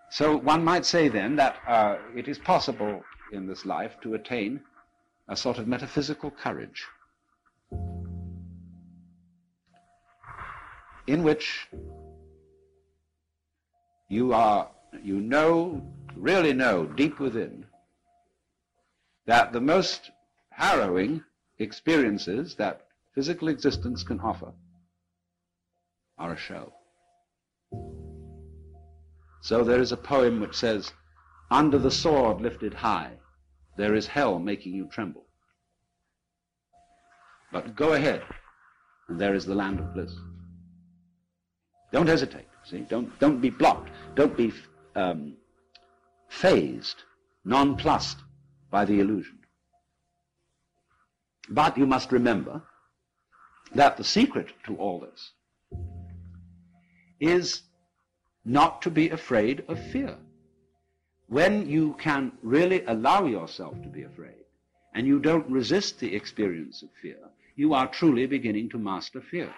So one might say then that it is possible in this life to attain a sort of metaphysical courage in which you really know deep within that the most harrowing experiences that physical existence can offer are a show. So there is a poem which says, "Under the sword lifted high, there is hell making you tremble. But go ahead, and there is the land of bliss." Don't hesitate, see? Don't be blocked. Don't be phased, nonplussed by the illusion. But you must remember that the secret to all this is not to be afraid of fear. When you can really allow yourself to be afraid, and you don't resist the experience of fear, you are truly beginning to master fear.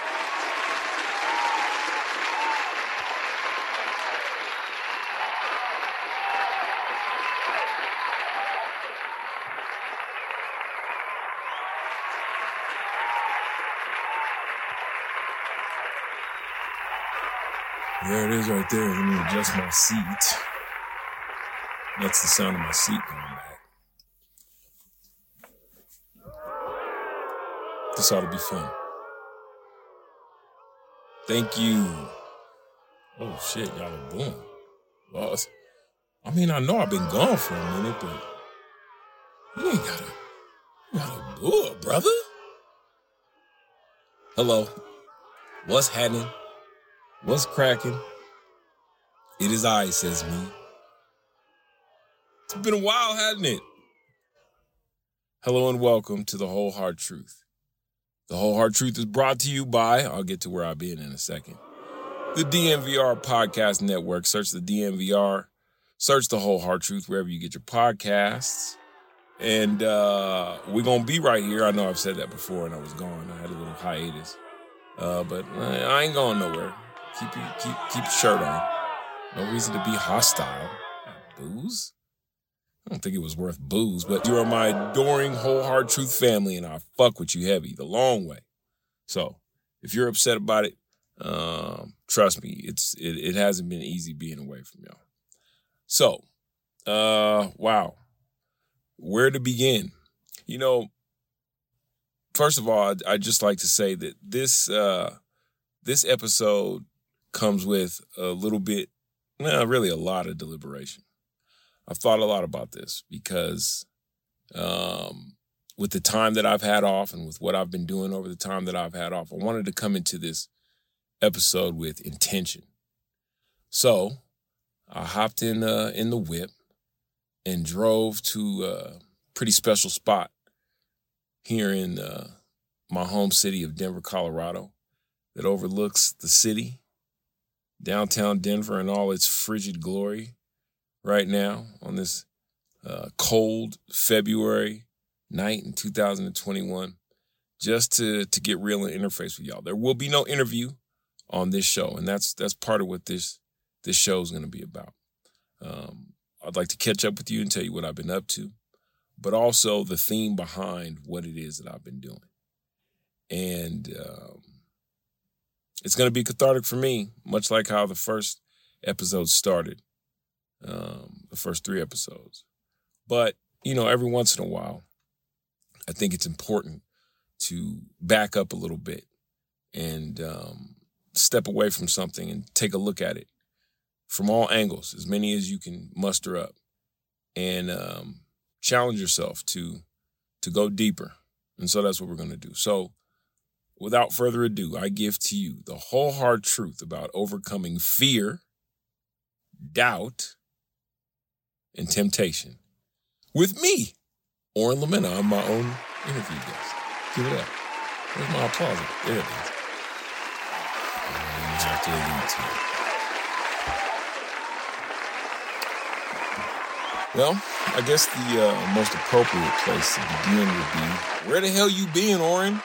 There it is right there. Let me adjust my seat. That's the sound of my seat going back. This ought to be fun. Thank you. Oh shit, y'all are booing. Well, I mean, I know I've been gone for a minute, but you ain't gotta boo it, brother. Hello. What's happening? What's cracking? It is I, says me. It's been a while, hasn't it? Hello and welcome to The Whole Hard Truth. The Whole Hard Truth is brought to you by, I'll get to where I've been in a second, the DNVR Podcast Network. Search the DNVR. Search The Whole Hard Truth wherever you get your podcasts. And we're going to be right here. I know I've said that before and I was gone. I had a little hiatus. But I ain't going nowhere. Keep your shirt on. No reason to be hostile. Booze? I don't think it was worth booze, but you are my adoring Whole Hard Truth family, and I fuck with you heavy, the long way. So, if you're upset about it, trust me, it hasn't been easy being away from y'all. So, wow. Where to begin? You know, first of all, I'd just like to say that this episode comes with a little bit, really a lot of deliberation. I've thought a lot about this because with the time that I've had off and with what I've been doing over the time that I've had off, I wanted to come into this episode with intention. So I hopped in the whip and drove to a pretty special spot here in my home city of Denver, Colorado, that overlooks the city, downtown Denver in all its frigid glory right now on this cold February night in 2021, just to get real and interface with y'all. There will be no interview on this show, and that's part of what this show is going to be about. I'd like to catch up with you and tell you what I've been up to, but also the theme behind what it is that I've been doing. And it's going to be cathartic for me, much like how the first episode started, the first 3 episodes. But, you know, every once in a while, I think it's important to back up a little bit and step away from something and take a look at it from all angles, as many as you can muster up, and challenge yourself to go deeper. And so that's what we're going to do. So without further ado, I give to you the whole hard truth about overcoming fear, doubt, and temptation with me, Oren Lamena. I'm my own interview guest. Give it up. Where's my applause? There it is. You have to allude to it. Well, I guess the most appropriate place to begin would be, where the hell you been, Oren?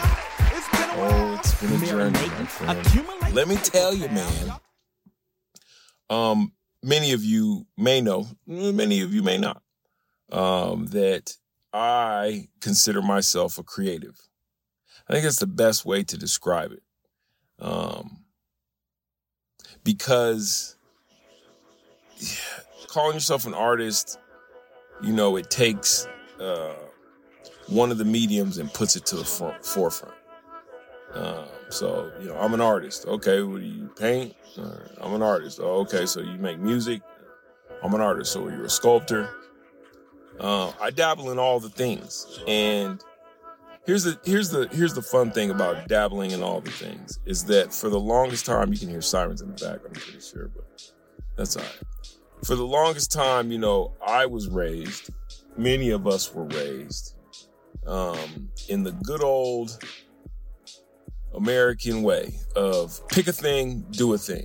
It's been a journey, my friend. Let me tell you, man. Many of you may know, many of you may not, that I consider myself a creative. I think that's the best way to describe it. Because calling yourself an artist, it takes one of the mediums and puts it to the forefront. So, I'm an artist. Okay, what do you paint? I'm an artist. Oh, okay, so you make music? I'm an artist. So you're a sculptor? I dabble in all the things. And here's the fun thing about dabbling in all the things is that for the longest time, you can hear sirens in the back, I'm pretty sure, but that's all right. For the longest time, I was raised, many of us were raised, in the good old American way of pick a thing, do a thing.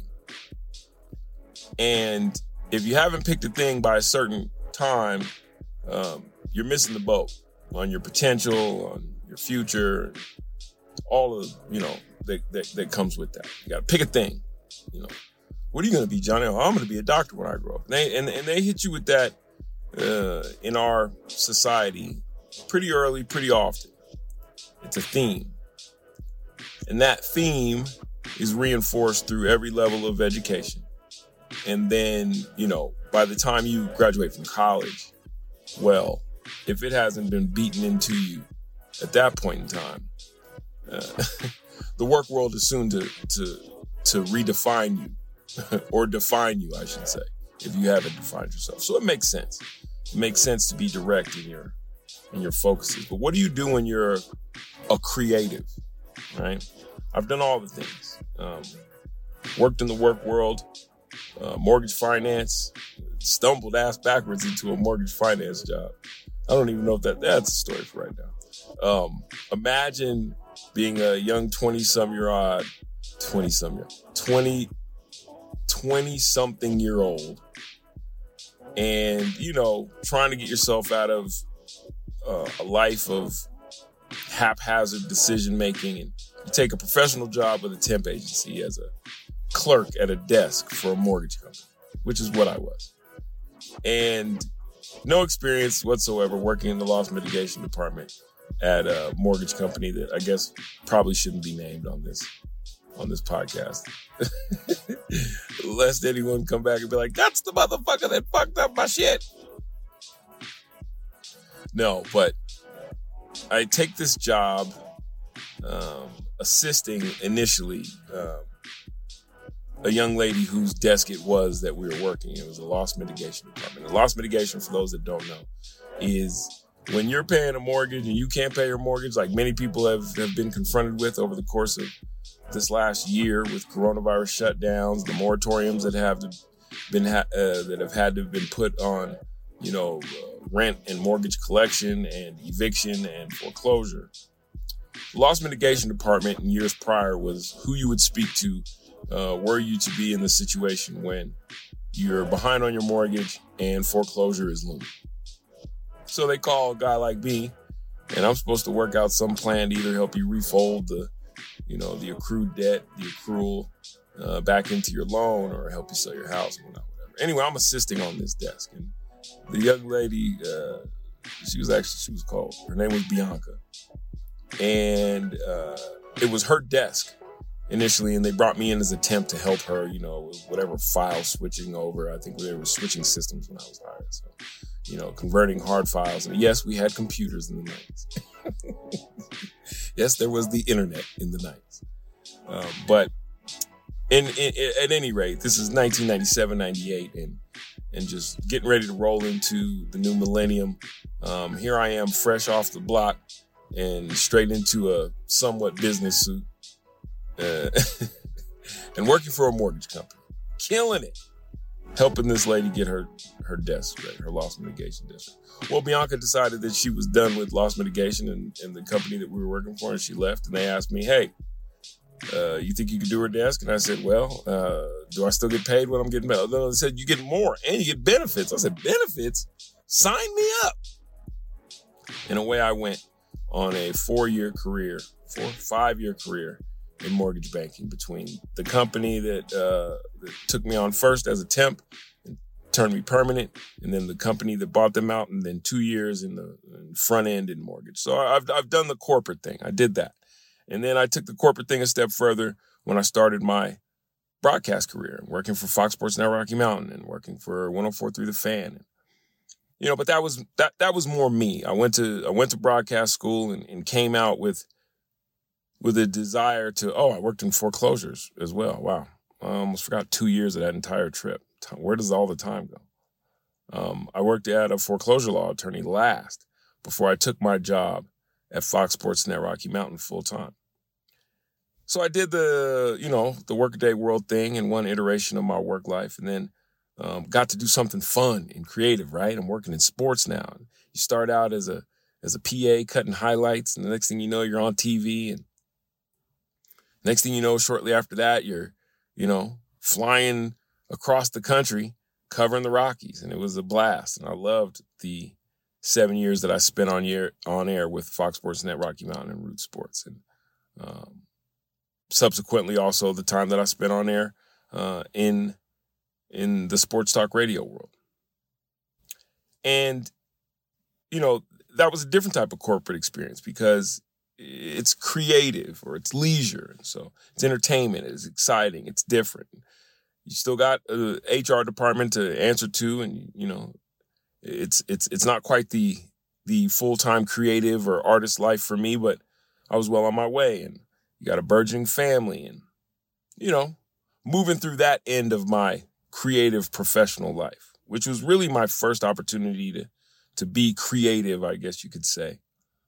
And if you haven't picked a thing by a certain time, you're missing the boat on your potential, on your future, all of, that comes with that. You got to pick a thing, What are you going to be, Johnny? Oh, I'm going to be a doctor when I grow up. And they hit you with that in our society pretty early, pretty often. It's a theme. And that theme is reinforced through every level of education. And then, by the time you graduate from college, well, if it hasn't been beaten into you at that point in time, the work world is soon to redefine you or define you, I should say, if you haven't defined yourself. So it makes sense. It makes sense to be direct in your focuses. But what do you do when you're a creative, right? I've done all the things. Worked in the work world, mortgage finance, stumbled ass backwards into a mortgage finance job. I don't even know if that's a story for right now. Imagine being a young 20-something year old and, trying to get yourself out of a life of haphazard decision making, and you take a professional job with a temp agency as a clerk at a desk for a mortgage company, which is what I was. And no experience whatsoever working in the loss mitigation department at a mortgage company that I guess probably shouldn't be named on this podcast. Lest anyone come back and be like, that's the motherfucker that fucked up my shit. No, but I take this job assisting initially a young lady whose desk it was that we were working. It was a loss mitigation department. And loss mitigation, for those that don't know, is when you're paying a mortgage and you can't pay your mortgage, like many people have been confronted with over the course of this last year with coronavirus shutdowns, the moratoriums that have had to have been put on, rent and mortgage collection and eviction and foreclosure. The loss mitigation department in years prior was who you would speak to were you to be in the situation when you're behind on your mortgage and foreclosure is looming. So they call a guy like me, and I'm supposed to work out some plan to either help you refold the accrued debt, the accrual back into your loan, or help you sell your house, whatever. Anyway, I'm assisting on this desk, and the young lady, she was called, her name was Bianca, and it was her desk initially, and they brought me in as a temp to help her, whatever file switching over. I think they were switching systems when I was hired, so converting hard files. And yes, we had computers in the 90s. Yes, there was the internet in the 90s. But at any rate, this is 1997, 98, and just getting ready to roll into the new millennium. Here I am, fresh off the block and straight into a somewhat business suit and working for a mortgage company, killing it, helping this lady get her desk straight, her loss mitigation desk. Well, Bianca decided that she was done with loss mitigation and the company that we were working for, and she left. And they asked me, hey, you think you could do her desk? And I said, well, do I still get paid when I'm getting paid? They said, you get more and you get benefits. I said, benefits? Sign me up. And away I went on a 5-year career in mortgage banking, between the company that took me on first as a temp and turned me permanent, and then the company that bought them out, and then 2 years in the front end in mortgage. So I've done the corporate thing. I did that. And then I took the corporate thing a step further when I started my broadcast career, working for Fox Sports Net Rocky Mountain and working for 104.3 The Fan. But that was more me. I went to broadcast school and came out with a desire to, I worked in foreclosures as well. Wow. I almost forgot 2 years of that entire trip. Where does all the time go? I worked at a foreclosure law attorney last before I took my job at Fox Sports Net Rocky Mountain full time. So I did the workaday world thing in one iteration of my work life, and then got to do something fun and creative, right? I'm working in sports now. You start out as a PA cutting highlights, and the next thing you know, you're on TV, and next thing you know, shortly after that, you're, flying across the country covering the Rockies, and it was a blast. And I loved the 7 years that I spent on air with Fox Sports Net Rocky Mountain and Root Sports, and subsequently also the time that I spent on air in the sports talk radio world. And, that was a different type of corporate experience because it's creative or it's leisure. And so it's entertainment, it's exciting, it's different. You still got a HR department to answer to, and, it's not quite the full-time creative or artist life for me, but I was well on my way, and you got a burgeoning family, and, moving through that end of my creative professional life, which was really my first opportunity to be creative, I guess you could say,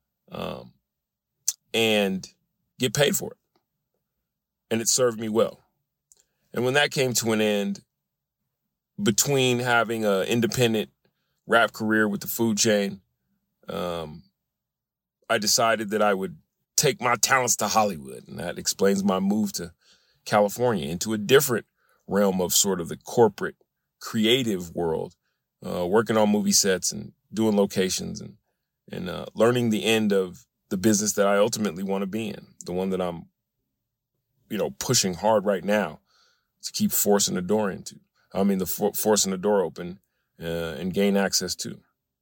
and get paid for it. And it served me well. And when that came to an end, between having an independent rap career with the food chain, I decided that I would take my talents to Hollywood. And that explains my move to California, into a different realm of sort of the corporate creative world, working on movie sets and doing locations and learning the end of the business that I ultimately want to be in, the one that I'm, pushing hard right now to keep forcing the door forcing the door open and gain access to.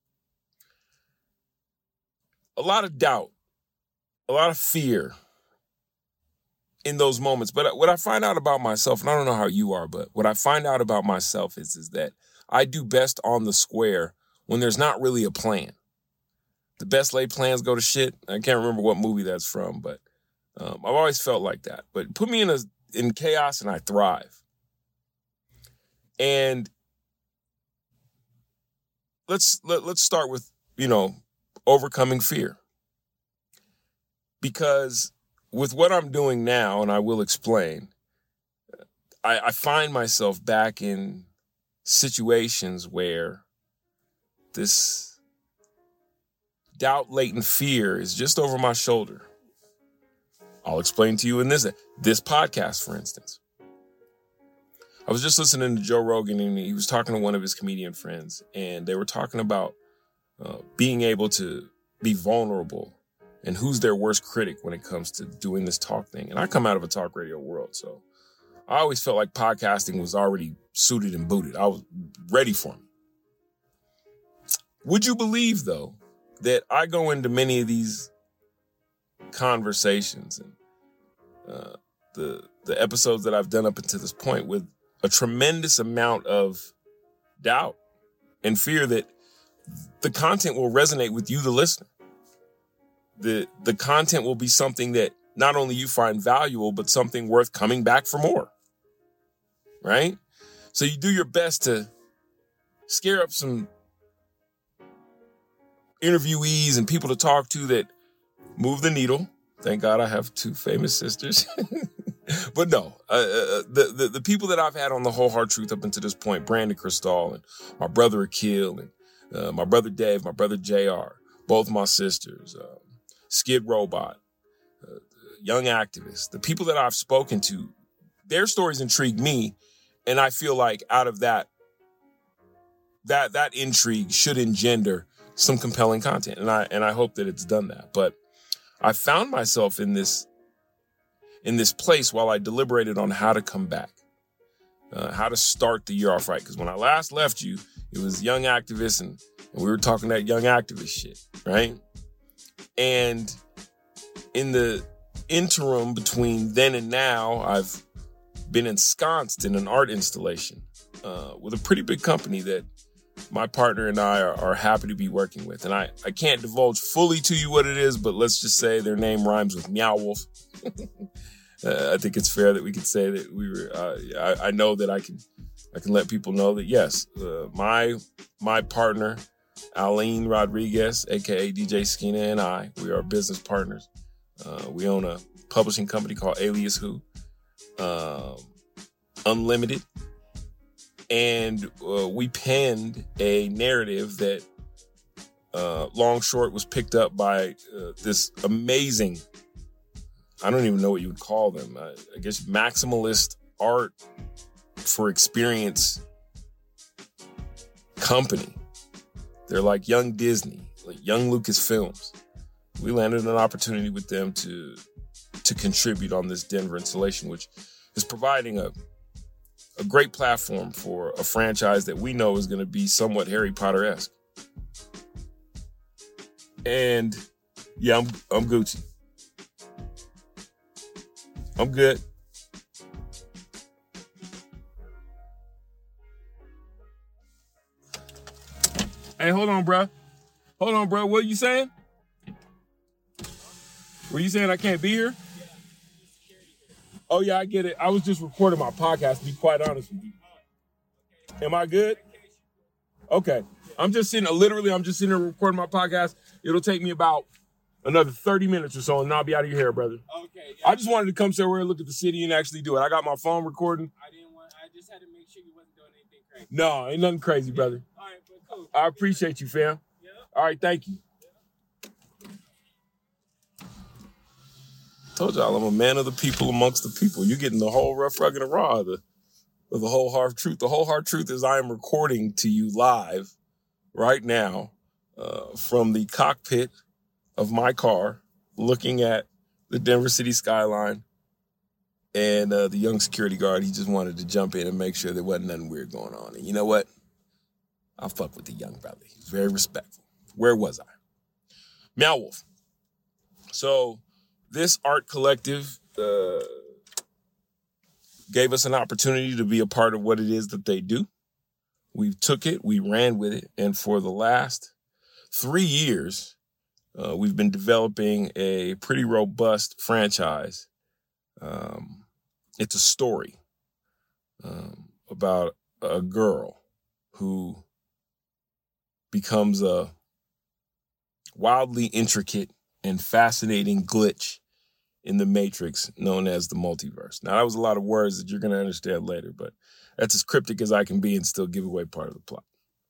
A lot of doubt, a lot of fear in those moments. But what I find out about myself, and I don't know how you are, but what I find out about myself is that I do best on the square when there's not really a plan. The best laid plans go to shit. I can't remember what movie that's from, but I've always felt like that. But put me in chaos and I thrive. And let's start with, overcoming fear. Because with what I'm doing now, and I will explain, I find myself back in situations where this doubt-laden fear is just over my shoulder. I'll explain to you in this podcast, for instance. I was just listening to Joe Rogan, and he was talking to one of his comedian friends, and they were talking about being able to be vulnerable and who's their worst critic when it comes to doing this talk thing. And I come out of a talk radio world, so I always felt like podcasting was already suited and booted. I was ready for me. Would you believe, though, that I go into many of these conversations and the episodes that I've done up until this point with a tremendous amount of doubt and fear that the content will resonate with you, the listener. The content will be something that not only you find valuable, but something worth coming back for more, right? So you do your best to scare up some interviewees and people to talk to that move the needle. Thank God I have two famous sisters. But no, the people that I've had on the Whole Hard Truth up until this point, Brandon Cristal and my brother Akil and my brother Dave, my brother JR, both my sisters, Skid Robot, Young Activist, the people that I've spoken to, their stories intrigue me. And I feel like out of that intrigue should engender some compelling content. And I hope that it's done that. But I found myself in this in this place while I deliberated on how to come back, how to start the year off right. Because when I last left you, it was young activists and we were talking that young activist shit, right? And in the interim between then and now, I've been ensconced in an art installation with a pretty big company that my partner and I are happy to be working with. And I can't divulge fully to you what it is, but let's just say their name rhymes with Meow Wolf. I think it's fair that we could say that we were, I know that I can let people know that, yes, my partner, Aline Rodriguez, a.k.a. DJ Skina, and I, we are business partners. We own a publishing company called Alias Who, Unlimited. And we penned a narrative that, long short, was picked up by this amazing, I don't even know what you would call them, I guess maximalist art for experience company. They're like young Disney, like young Lucasfilms. We landed an opportunity with them to contribute on this Denver installation, which is providing a great platform for a franchise that we know is going to be somewhat Harry Potter-esque. And yeah, I'm Gucci. I'm good. Hey, hold on, bro. What are you saying? Were you saying I can't be here? Oh, yeah, I get it. I was just recording my podcast, to be quite honest with you. Am I good? Okay. I'm just sitting here recording my podcast. It'll take me about another 30 minutes or so, and I'll be out of your hair, brother. Okay. Yeah, I just wanted to come somewhere and look at the city and actually do it. I got my phone recording. I just had to make sure you wasn't doing anything crazy. No, ain't nothing crazy, brother. All right, but cool. I appreciate you, fam. Yeah. All right, thank you. Told y'all I'm a man of the people amongst the people. You're getting the whole rough, rugged, and raw of the whole hard truth. The whole hard truth is I am recording to you live right now from the cockpit of my car, looking at the Denver city skyline. And the young security guard, he just wanted to jump in and make sure there wasn't nothing weird going on. And you know what? I fuck with the young brother. He's very respectful. Where was I? Meow Wolf. So this art collective gave us an opportunity to be a part of what it is that they do. We took it, we ran with it, and for the last 3 years, we've been developing a pretty robust franchise. It's a story about a girl who becomes a wildly intricate and fascinating glitch in the matrix known as the multiverse. Now, that was a lot of words that you're going to understand later, but that's as cryptic as I can be and still give away part of the plot.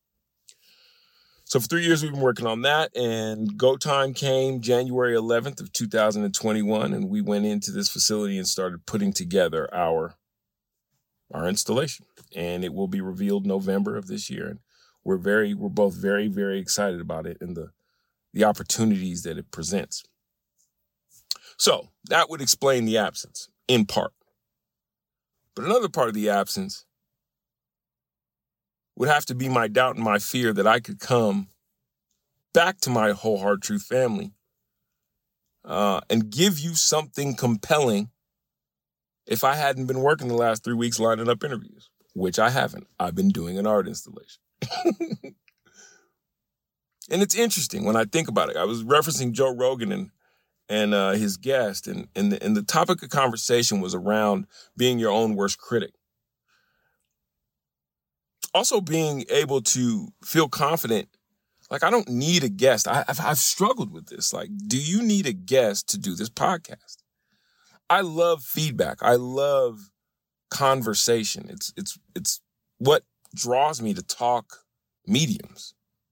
So for 3 years, we've been working on that, and go time came January 11th of 2021, and we went into this facility and started putting together our installation, and it will be revealed November of this year. And we're both very, very excited about it and the opportunities that it presents. So that would explain the absence, in part. But another part of the absence would have to be my doubt and my fear that I could come back to my Whole Hard Truth family and give you something compelling if I hadn't been working the last 3 weeks lining up interviews, which I haven't. I've been doing an art installation. And it's interesting when I think about it. I was referencing Joe Rogan and his guest, and the topic of conversation was around being your own worst critic. Also being able to feel confident. Like, I don't need a guest. I've struggled with this. Like, do you need a guest to do this podcast? I love feedback. I love conversation. It's what draws me to talk mediums.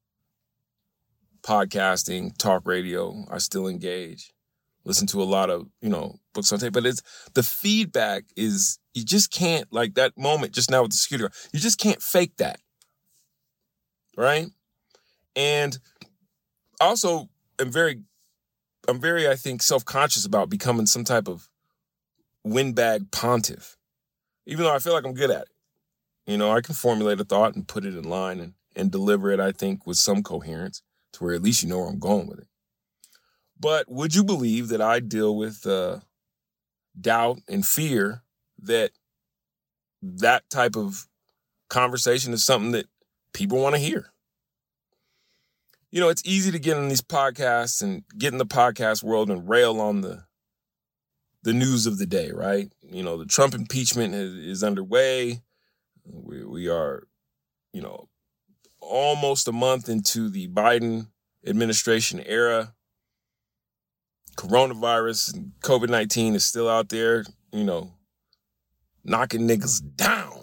Podcasting, talk radio, I still engage. Listen to a lot of, books on tape. But it's the feedback is, you just can't, like that moment just now with the security guard, you just can't fake that. Right? And also, I'm very, I think, self-conscious about becoming some type of windbag pontiff, even though I feel like I'm good at it. You know, I can formulate a thought and put it in line and deliver it, I think, with some coherence to where at least you know where I'm going with it. But would you believe that I deal with doubt and fear that type of conversation is something that people want to hear? You know, it's easy to get in these podcasts and get in the podcast world and rail on the news of the day, right? You know, the Trump impeachment is underway. We are, you know, almost a month into the Biden administration era. Coronavirus and COVID-19 is still out there, you know, knocking niggas down.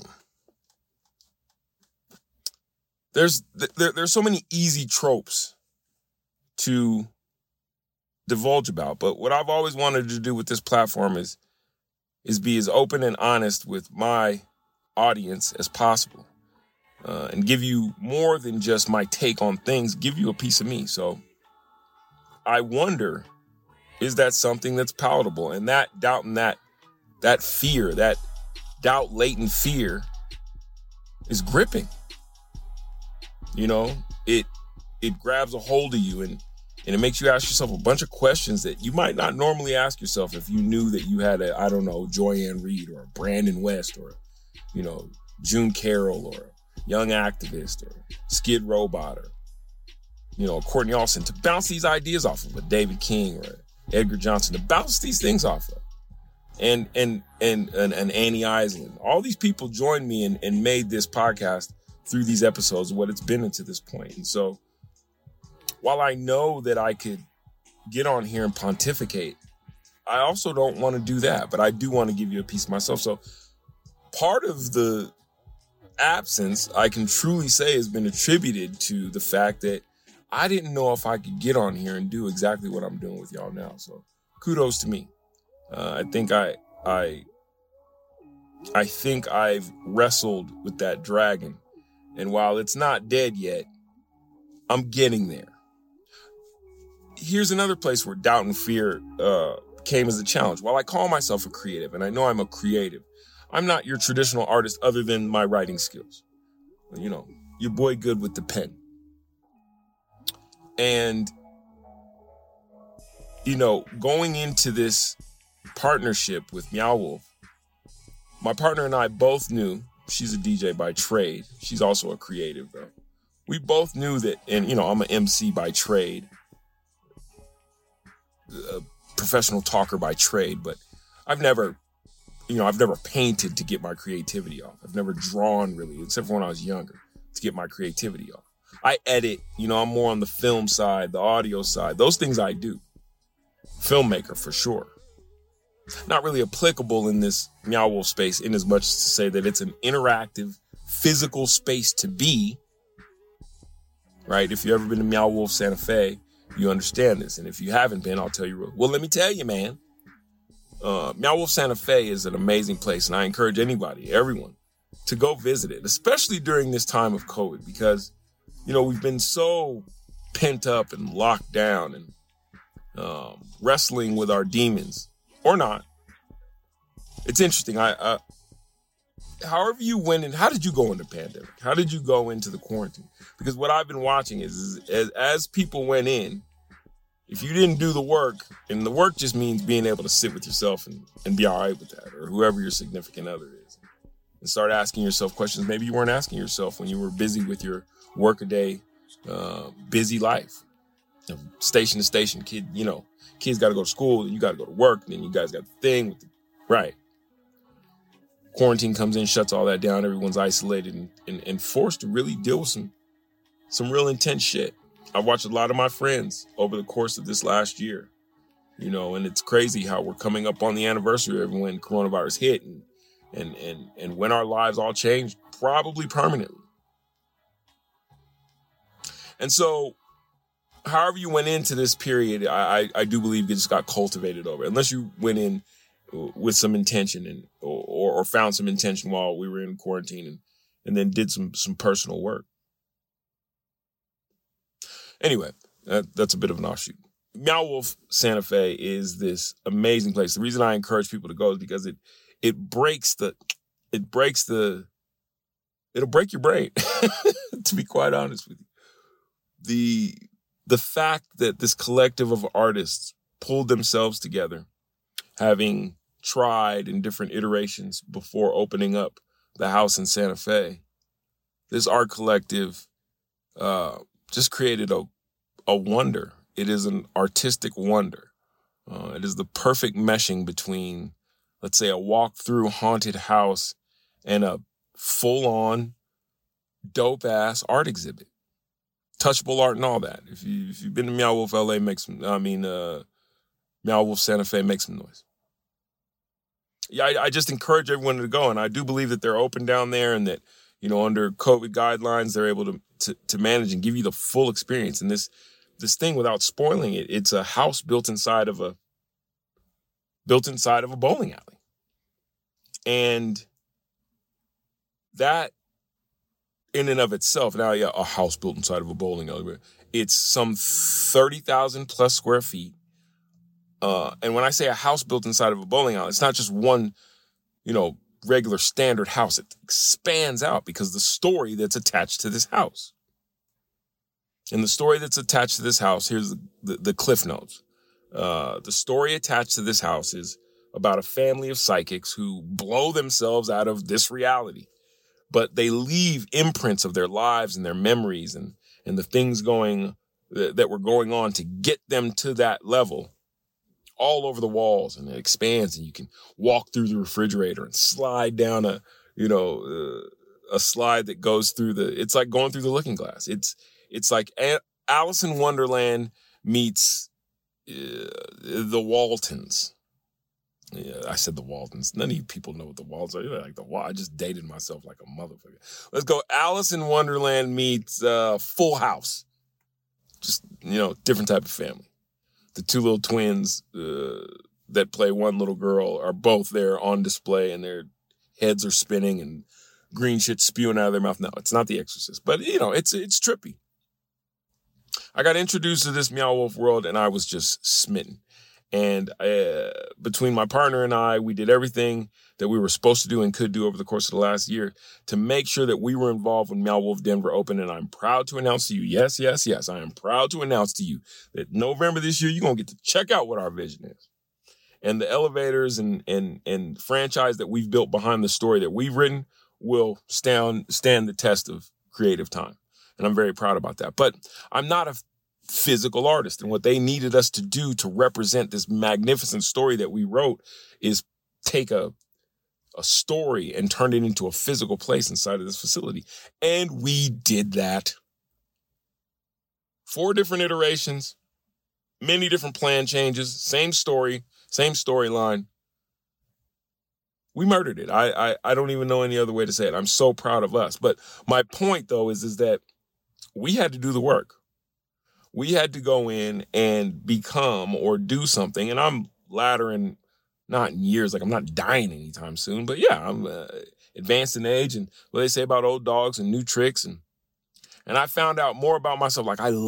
There's so many easy tropes to divulge about, but what I've always wanted to do with this platform is be as open and honest with my audience as possible, and give you more than just my take on things, give you a piece of me. So I wonder, is that something that's palatable? And that doubt and that fear, that doubt latent fear is gripping. You know, it grabs a hold of you and it makes you ask yourself a bunch of questions that you might not normally ask yourself if you knew that you had a, I don't know, Joyanne Reed or a Brandon West or, you know, June Carroll or a young activist or Skid Robot or, you know, Courtney Austin, to bounce these ideas off of, a David King or Edgar Johnson, to bounce these things off of. And Annie Island. All these people joined me and made this podcast through these episodes, what it's been into this point. And so while I know that I could get on here and pontificate, I also don't want to do that, but I do want to give you a piece of myself. So part of the absence, I can truly say, has been attributed to the fact that I didn't know if I could get on here and do exactly what I'm doing with y'all now. So kudos to me. I think I think I've wrestled with that dragon. And while it's not dead yet, I'm getting there. Here's another place where doubt and fear came as a challenge. While I call myself a creative, and I know I'm a creative, I'm not your traditional artist other than my writing skills. You know, your boy good with the pen. And, you know, going into this partnership with Meow Wolf, my partner and I both knew, she's a DJ by trade. She's also a creative, though. We both knew that, and, you know, I'm an MC by trade, a professional talker by trade, but I've never painted to get my creativity off. I've never drawn, really, except for when I was younger, to get my creativity off. I edit, you know, I'm more on the film side, the audio side. Those things I do. Filmmaker, for sure. Not really applicable in this Meow Wolf space, in as much as to say that it's an interactive, physical space to be. Right? If you've ever been to Meow Wolf Santa Fe, you understand this. And if you haven't been, I'll tell you. Well, let me tell you, man. Meow Wolf Santa Fe is an amazing place, and I encourage anybody, everyone, to go visit it, especially during this time of COVID, because, you know, we've been so pent up and locked down and wrestling with our demons, or not. It's interesting. However you went in, how did you go into the pandemic? How did you go into the quarantine? Because what I've been watching is as people went in, if you didn't do the work, and the work just means being able to sit with yourself and be all right with that, or whoever your significant other is, and start asking yourself questions maybe you weren't asking yourself when you were busy with your workaday, busy life, you know, station to station. Kids got to go to school, and you got to go to work, and then you guys got the thing with right. Quarantine comes in, shuts all that down. Everyone's isolated and forced to really deal with some real intense shit. I've watched a lot of my friends over the course of this last year, you know, and it's crazy how we're coming up on the anniversary of when coronavirus hit and when our lives all changed, probably permanently. And so, however you went into this period, I do believe it just got cultivated over. Unless you went in with some intention or found some intention while we were in quarantine and then did some personal work. Anyway, that's a bit of an offshoot. Meow Wolf Santa Fe is this amazing place. The reason I encourage people to go is because it'll break your brain, to be quite honest with you. The fact that this collective of artists pulled themselves together, having tried in different iterations before opening up the house in Santa Fe, this art collective just created a wonder. It is an artistic wonder. It is the perfect meshing between, let's say, a walk-through haunted house and a full-on dope-ass art exhibit. Touchable art and all that. If you've been to Meow Wolf LA, Meow Wolf Santa Fe, make some noise. Yeah, I just encourage everyone to go, and I do believe that they're open down there, and that, you know, under COVID guidelines, they're able to manage and give you the full experience. And this thing, without spoiling it, it's a house built inside of a bowling alley. And that in and of itself, now, yeah, a house built inside of a bowling alley, it's some 30,000 plus square feet. And when I say a house built inside of a bowling alley, it's not just one, you know, regular standard house. It expands out because the story that's attached to this house. And the story that's attached to this house, here's the cliff notes. The story attached to this house is about a family of psychics who blow themselves out of this reality, but they leave imprints of their lives and their memories and the things that were going on to get them to that level all over the walls, and it expands, and you can walk through the refrigerator and slide down a slide that goes through it's like going through the looking glass. It's like Alice in Wonderland meets the Waltons. Yeah, I said the Waltons. None of you people know what the Waltons are. You're like I just dated myself like a motherfucker. Let's go. Alice in Wonderland meets Full House. Just, you know, different type of family. The two little twins that play one little girl are both there on display, and their heads are spinning and green shit spewing out of their mouth. No, it's not The Exorcist, but, you know, it's trippy. I got introduced to this Meow Wolf world, and I was just smitten. And between my partner and I, we did everything that we were supposed to do and could do over the course of the last year to make sure that we were involved when Meow Wolf Denver opened. And I'm proud to announce to you, yes, I am proud to announce to you that November this year, you're going to get to check out what our vision is. And the elevators and franchise that we've built behind the story that we've written will stand the test of creative time. And I'm very proud about that. But I'm not a physical artist, and what they needed us to do to represent this magnificent story that we wrote is take a story and turn it into a physical place inside of this facility. And we did that. 4 different iterations, many different plan changes, same story, same storyline. We murdered it. I don't even know any other way to say it. I'm so proud of us. But my point, though, is that we had to do the work. We had to go in and become or do something. And I'm laddering, not in years, like I'm not dying anytime soon, but yeah, I'm advanced in age, and what they say about old dogs and new tricks. And I found out more about myself. Like I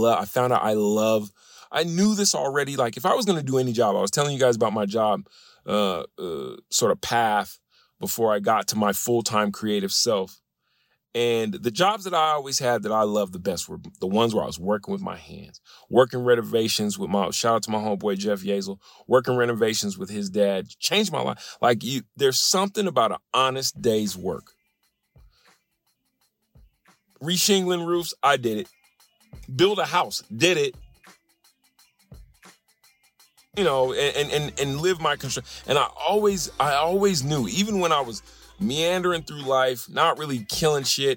knew this already. Like if I was going to do any job, I was telling you guys about my job sort of path before I got to my full-time creative self. And the jobs that I always had that I loved the best were the ones where I was working with my hands, working renovations with shout out to my homeboy, Jeff Yazel, working renovations with his dad, changed my life. Like there's something about an honest day's work. Reshingling roofs, I did it. Build a house, did it. You know, and live my construction. And I always knew, even when I was meandering through life, not really killing shit,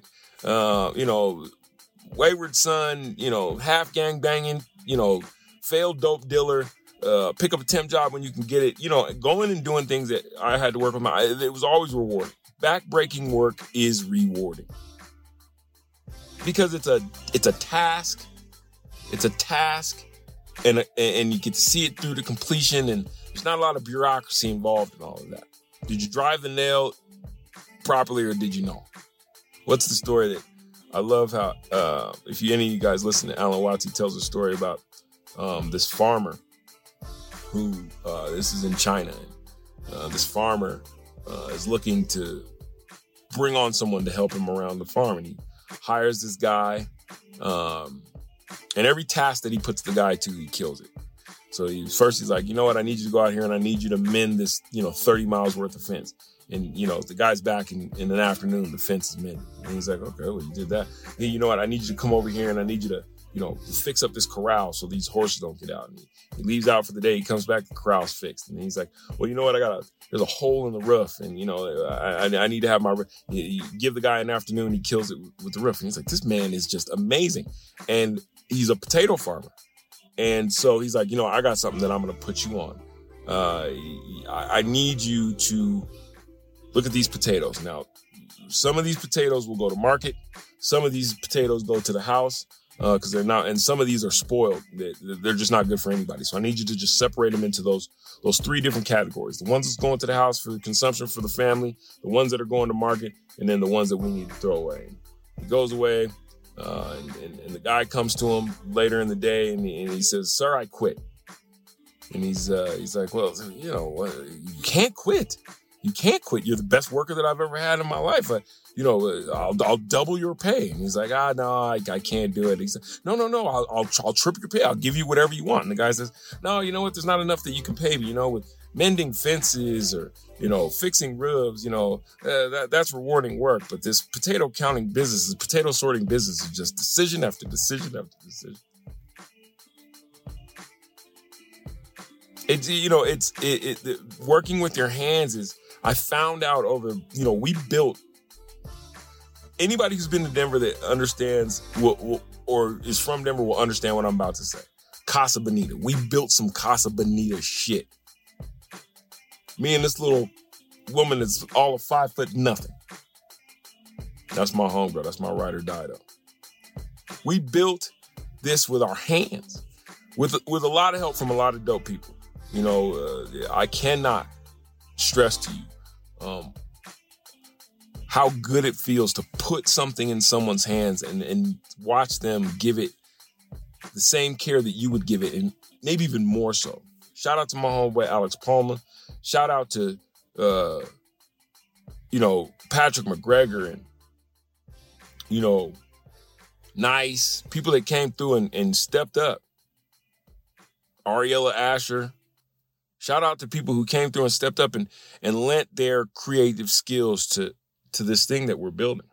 wayward son, half gang banging, failed dope dealer, pick up a temp job when you can get it, going and doing things that I had to work with it was always rewarding. Backbreaking work is rewarding because it's a task. It's a task, and you get to see it through to completion, and there's not a lot of bureaucracy involved in all of that. Did you drive the nail properly, or did you know? What's the story that I love? How if any of you guys listen to Alan Watts, he tells a story about this farmer who, this is in China. This farmer is looking to bring on someone to help him around the farm. And he hires this guy. And every task that he puts the guy to, he kills it. So he's like, you know what? I need you to go out here and I need you to mend this, 30 miles worth of fence. And, the guy's back in an afternoon, the fence is mended. And he's like, okay, well, you did that. Then, you know what? I need you to come over here and I need you to, fix up this corral so these horses don't get out. And he leaves out for the day. He comes back, the corral's fixed. And he's like, well, you know what? There's a hole in the roof. And, I need to have you give the guy an afternoon. He kills it with the roof. And he's like, this man is just amazing. And he's a potato farmer. And so he's like, I got something that I'm going to put you on. I need you to look at these potatoes. Now, some of these potatoes will go to market. Some of these potatoes go to the house because they're not, and some of these are spoiled. They're just not good for anybody. So I need you to just separate them into those 3 different categories. The ones that's going to the house for consumption for the family, the ones that are going to market, and then the ones that we need to throw away. And he goes away, and the guy comes to him later in the day, and he says, "Sir, I quit." And he's like, "Well, you can't quit. You can't quit. You're the best worker that I've ever had in my life. I'll double your pay." And he's like, no, I can't do it. He said, no, I'll triple your pay. I'll give you whatever you want. And the guy says, no, you know what? There's not enough that you can pay me, with mending fences or, fixing roofs, that's rewarding work. But this potato sorting business is just decision after decision after decision. Working with your hands is, I found out over, we built, anybody who's been to Denver that understands or is from Denver will understand what I'm about to say. Casa Bonita. We built some Casa Bonita shit. Me and this little woman that's all of 5'0". That's my homegirl. That's my ride or die though. We built this with our hands, with a lot of help from a lot of dope people. I cannot stress to you how good it feels to put something in someone's hands and watch them give it the same care that you would give it, and maybe even more so. Shout out to my homeboy Alex Palmer. Shout out to Patrick McGregor and Nice people that came through and stepped up. Ariella Asher. Shout out to people who came through and stepped up and lent their creative skills to this thing that we're building.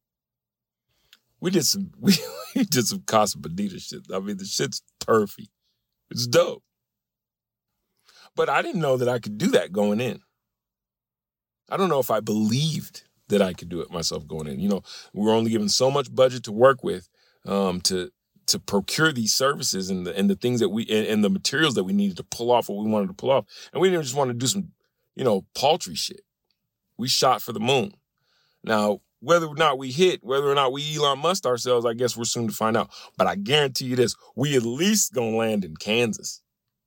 We did some Casa Bonita shit. I mean, the shit's turfy. It's dope. But I didn't know that I could do that going in. I don't know if I believed that I could do it myself going in. We were only given so much budget to work with to procure these services and the things that and the materials that we needed to pull off what we wanted to pull off. And we didn't just want to do some, paltry shit. We shot for the moon. Now, whether or not we hit, whether or not we Elon Musk ourselves, I guess we're soon to find out. But I guarantee you this, we at least gonna land in Kansas.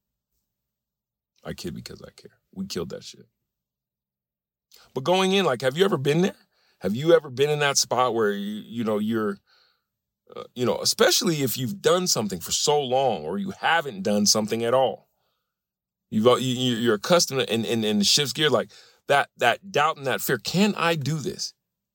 I kid because I care. We killed that shit. But going in, have you ever been there? Have you ever been in that spot where, you're, especially if you've done something for so long or you haven't done something at all. You're accustomed to, and the shifts gear, that doubt and that fear. Can I do this?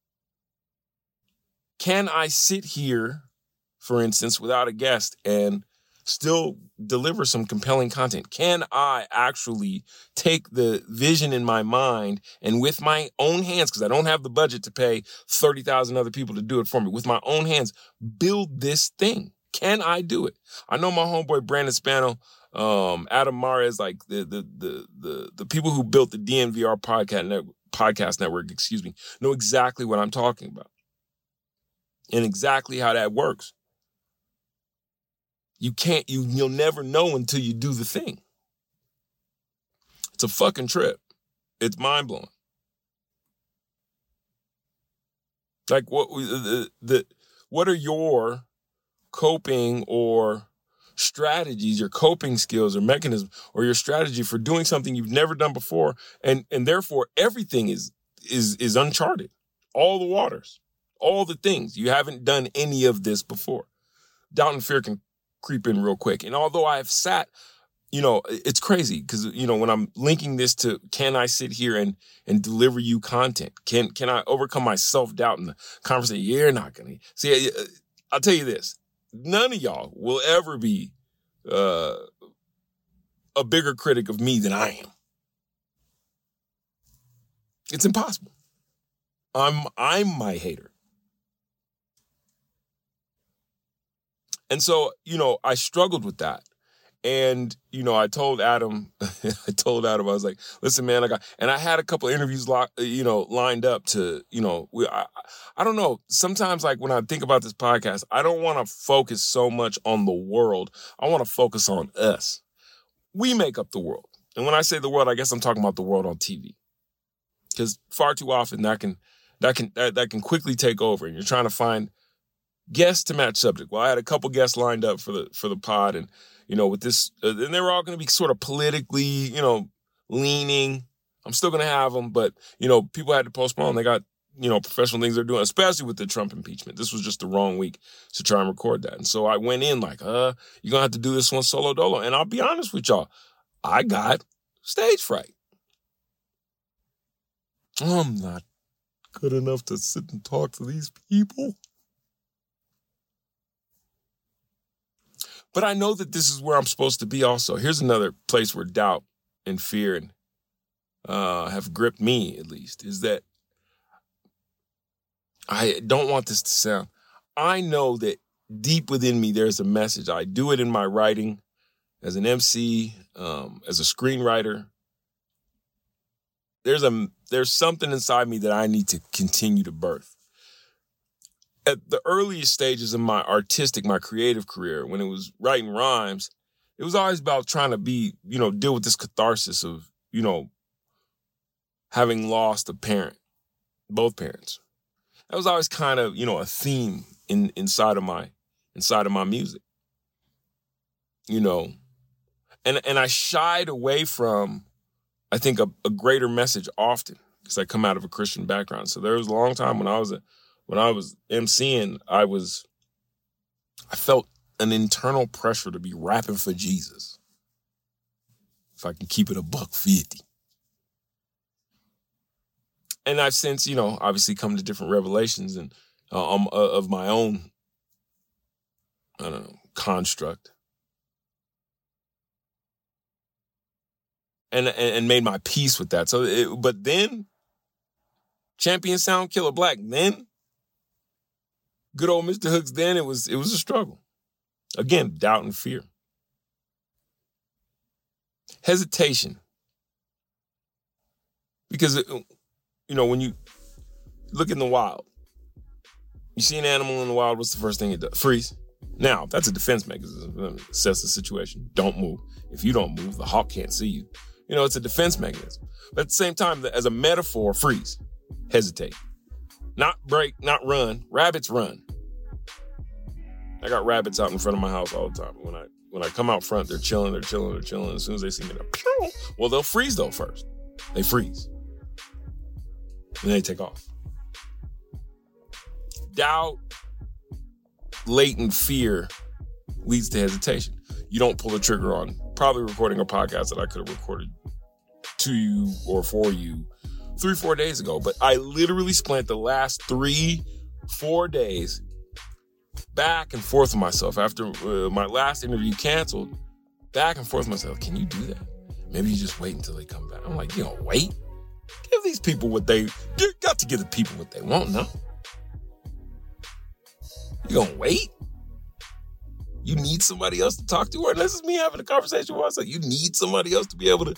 Can I sit here, for instance, without a guest and still deliver some compelling content? Can I actually take the vision in my mind and with my own hands, because I don't have the budget to pay 30,000 other people to do it for me, with my own hands, build this thing? Can I do it? I know my homeboy Brandon Spano, Adam Mares, the people who built the DNVR podcast network, know exactly what I'm talking about and exactly how that works. You'll never know until you do the thing. It's a fucking trip. It's mind-blowing. What are your coping or strategies, your coping skills or mechanisms, or your strategy for doing something you've never done before, and therefore everything is uncharted. All the waters, all the things. You haven't done any of this before. Doubt and fear can creep in real quick. And although I've sat, it's crazy because, when I'm linking this to, can I sit here and deliver you content? Can I overcome my self-doubt in the conversation? You're not going to. See, I'll tell you this. None of y'all will ever be a bigger critic of me than I am. It's impossible. I'm my hater. And so, I struggled with that. And, I told Adam, I was like, listen, man, I had a couple of interviews, lined up to, I don't know. Sometimes, like, when I think about this podcast, I don't want to focus so much on the world. I want to focus on us. We make up the world. And when I say the world, I guess I'm talking about the world on TV. Because far too often that can quickly take over, and you're trying to find guests to match subject. Well, I had a couple guests lined up for the pod, and with this, and they were all going to be sort of politically, leaning. I'm still going to have them, but people had to postpone. They got professional things they're doing, especially with the Trump impeachment. This was just the wrong week to try and record that, and so I went in like, you're gonna have to do this one solo dolo. And I'll be honest with y'all, I got stage fright. I'm not good enough to sit and talk to these people. But I know that this is where I'm supposed to be also. Here's another place where doubt and fear have gripped me, at least, is that I don't want this to sound. I know that deep within me there's a message. I do it in my writing, as an MC, as a screenwriter. There's something inside me that I need to continue to birth. At the earliest stages of my creative career, when it was writing rhymes, it was always about trying to deal with this catharsis of, having lost a parent, both parents. That was always kind of, a theme inside of my music, and I shied away from, I think, a greater message often because I come out of a Christian background. So there was a long time when I was MCing, I felt an internal pressure to be rapping for Jesus. If I can keep it $150. And I've since, obviously come to different revelations and of my own, construct. And made my peace with that. But then, Champion Sound, Killer Black, then, good old Mr. Hooks, then it was a struggle. Again, doubt and fear. Hesitation. Because, when you look in the wild, you see an animal in the wild, what's the first thing it does? Freeze. Now, that's a defense mechanism. Assess the situation. Don't move. If you don't move, the hawk can't see you. It's a defense mechanism. But at the same time, as a metaphor, freeze. Hesitate. Not break, not run. Rabbits run. I got rabbits out in front of my house all the time. When I come out front, they're chilling. As soon as they see me, they'll freeze though first. They freeze. And then they take off. Doubt, latent fear leads to hesitation. You don't pull the trigger on probably recording a podcast that I could have recorded to you or for you 3-4 days ago. But I literally spent the last 3-4 days back and forth with myself after my last interview canceled. Back and forth with myself. Can you do that? Maybe you just wait until they come back. I'm like, wait? Give these people you got to give the people what they want, no? You gonna wait? You need somebody else to talk to, or this is me having a conversation with myself. You need somebody else to be able to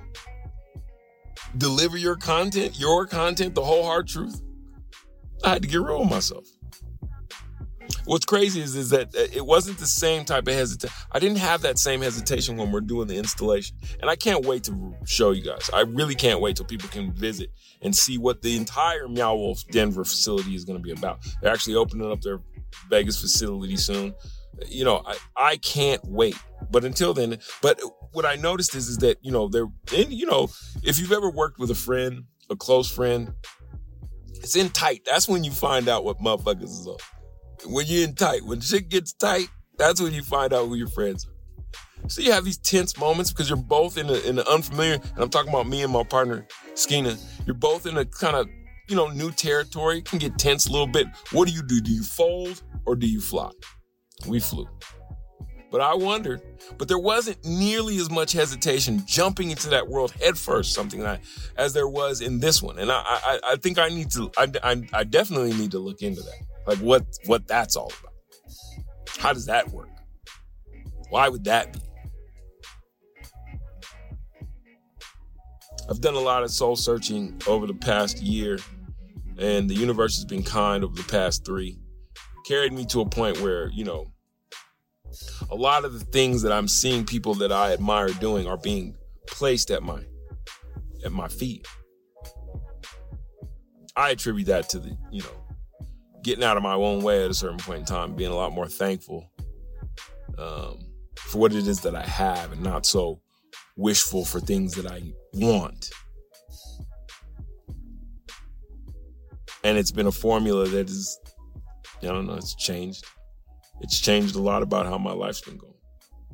deliver your content, the whole hard truth. I had to get real with myself. What's crazy is that it wasn't the same type of hesitation. I didn't have that same hesitation when we're doing the installation. And I can't wait to show you guys. I really can't wait till people can visit and see what the entire Meow Wolf Denver facility is going to be about. They're actually opening up their Vegas facility soon. I can't wait. But until then, what I noticed is that, if you've ever worked with a friend, a close friend, it's in tight. That's when you find out what motherfuckers is up. When you're in tight, when shit gets tight, That's when you find out who your friends are. So you have these tense moments because you're both in an unfamiliar, and I'm talking about me and my partner, Skeena. You're both in a kind of, new territory. It can get tense a little bit. What do? Do you fold or do you fly? We flew. But I wondered, but there wasn't nearly as much hesitation jumping into that world headfirst, as there was in this one. And I think I definitely need to look into that. Like what that's all about. How does that work? Why would that be? I've done a lot of soul searching over the past year, and the universe has been kind over the past 3. Carried me to a point where, a lot of the things that I'm seeing people that I admire doing are being placed at my feet. I attribute that to the, getting out of my own way at a certain point in time, being a lot more thankful for what it is that I have and not so wishful for things that I want. And it's been a formula that is, it's changed. It's changed a lot about how my life's been going.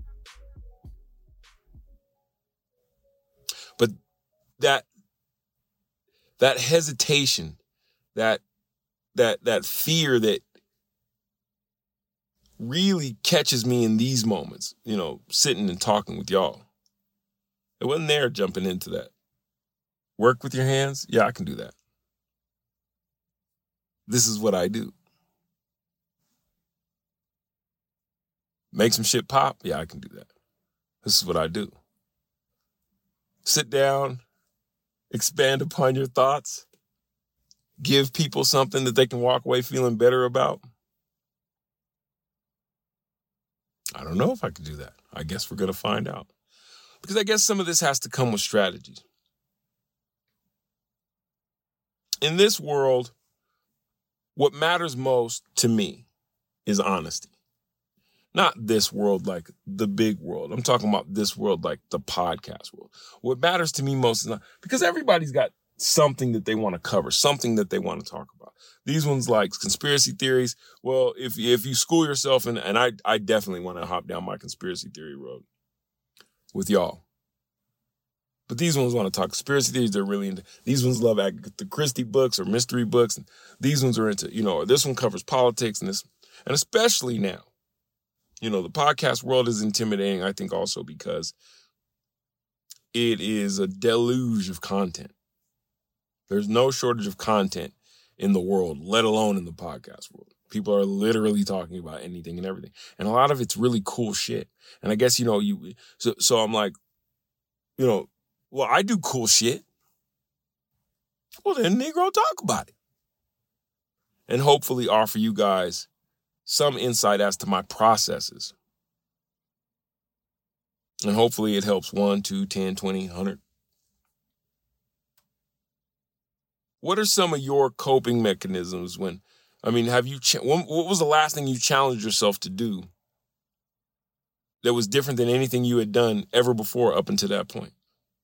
But that hesitation, that fear that really catches me in these moments, sitting and talking with y'all. It wasn't there jumping into that. Work with your hands? Yeah, I can do that. This is what I do. Make some shit pop? Yeah, I can do that. This is what I do. Sit down, expand upon your thoughts, give people something that they can walk away feeling better about. I don't know if I can do that. I guess we're going to find out. Because I guess some of this has to come with strategies. In this world, what matters most to me is honesty. Not this world like the big world. I'm talking about this world like the podcast world. What matters to me most is not, because everybody's got something that they want to cover, something that they want to talk about. These ones like conspiracy theories. Well, if you school yourself, and I definitely want to hop down my conspiracy theory road with y'all. But these ones want to talk conspiracy theories. They're really into, these ones love Agatha Christie books or mystery books. And these ones are into, or this one covers politics and this, and especially now. The podcast world is intimidating, I think, also because it is a deluge of content. There's no shortage of content in the world, let alone in the podcast world. People are literally talking about anything and everything. And a lot of it's really cool shit. And I guess, so I'm like, well, I do cool shit. Well, then, Negro, talk about it. And hopefully offer you guys some insight as to my processes. And hopefully it helps 1, 2, 10, 20, 100. What are some of your coping mechanisms when, have you, what was the last thing you challenged yourself to do that was different than anything you had done ever before up until that point?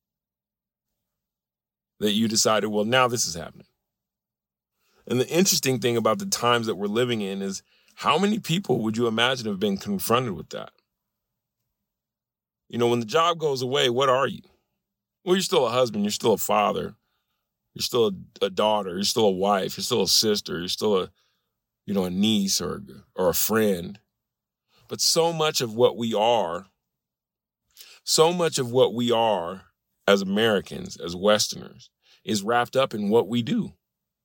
That you decided, well, now this is happening. And the interesting thing about the times that we're living in is, how many people would you imagine have been confronted with that? When the job goes away, what are you? Well, you're still a husband. You're still a father. You're still a daughter. You're still a wife. You're still a sister. You're still a niece or a friend. But so much of what we are as Americans, as Westerners, is wrapped up in what we do.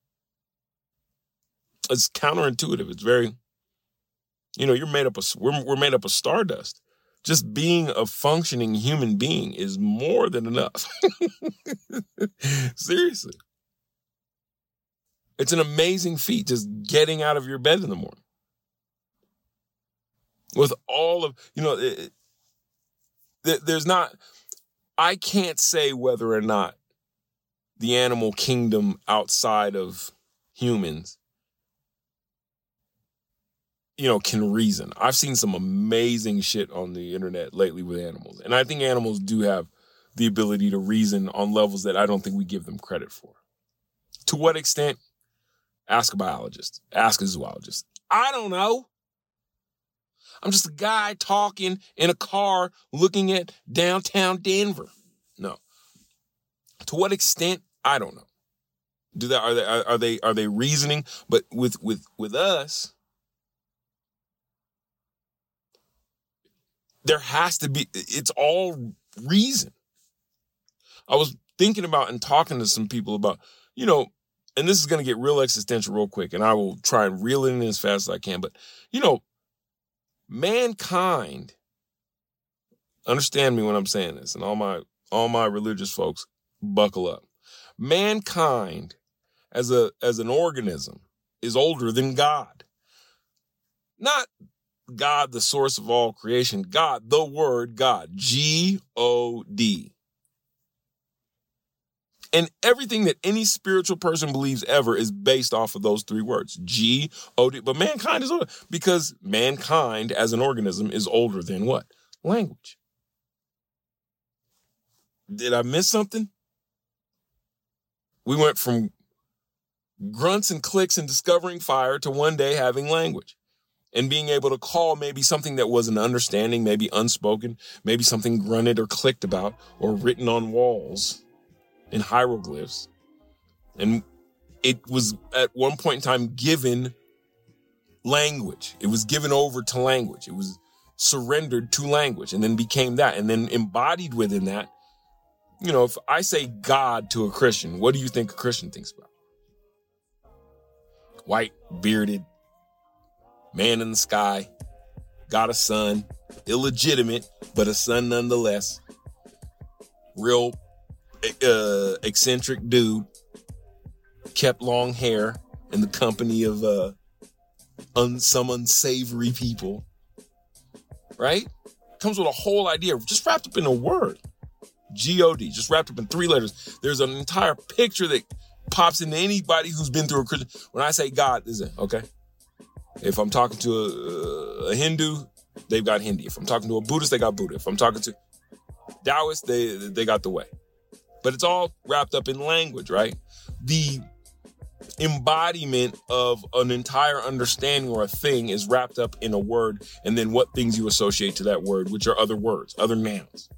It's counterintuitive. It's very, we're made up of stardust. Just being a functioning human being is more than enough. Seriously. It's an amazing feat just getting out of your bed in the morning. With all of, there's not, I can't say whether or not the animal kingdom outside of humans can reason. I've seen some amazing shit on the internet lately with animals. And I think animals do have the ability to reason on levels that I don't think we give them credit for. To what extent? Ask a biologist. Ask a zoologist. I don't know. I'm just a guy talking in a car looking at downtown Denver. No. To what extent? I don't know. Are they reasoning? But with us, there has to be, it's all reason. I was thinking about and talking to some people about, and this is going to get real existential real quick, and I will try and reel it in as fast as I can. But, mankind, understand me when I'm saying this, and all my religious folks, buckle up. Mankind as an organism is older than God. Not God, the source of all creation. God, the word God. G-O-D. And everything that any spiritual person believes ever is based off of those three words. G-O-D. But mankind is older because mankind as an organism is older than what? Language. Did I miss something? We went from grunts and clicks and discovering fire to one day having language and being able to call maybe something that was an understanding, maybe unspoken, maybe something grunted or clicked about or written on walls in hieroglyphs. And it was at one point in time given language. It was given over to language. It was surrendered to language and then became that. And then embodied within that, if I say God to a Christian, what do you think a Christian thinks about? White, bearded, man in the sky, got a son, illegitimate, but a son nonetheless. Real eccentric dude, kept long hair in the company of some unsavory people, right? Comes with a whole idea just wrapped up in a word. G-O-D, just wrapped up in three letters. There's an entire picture that pops into anybody who's been through a Christian. When I say God, is it okay? If I'm talking to a Hindu, they've got Hindi. If I'm talking to a Buddhist, they got Buddha. If I'm talking to Taoist, they got the way. But it's all wrapped up in language, right? The embodiment of an entire understanding or a thing is wrapped up in a word, and then what things you associate to that word, which are other words, other nouns.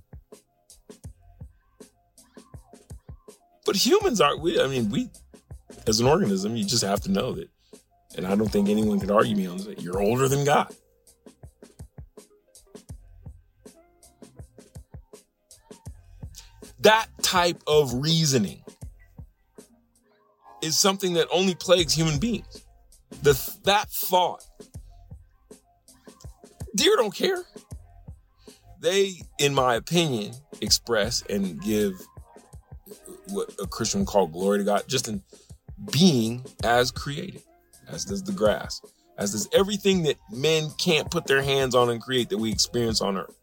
But humans we as an organism, you just have to know that, and I don't think anyone could argue me on this, you're older than God. That type of reasoning is something that only plagues human beings. That thought. Deer don't care. They, in my opinion, express and give what a Christian would call glory to God, just in being as created, as does the grass, as does everything that men can't put their hands on and create that we experience on earth.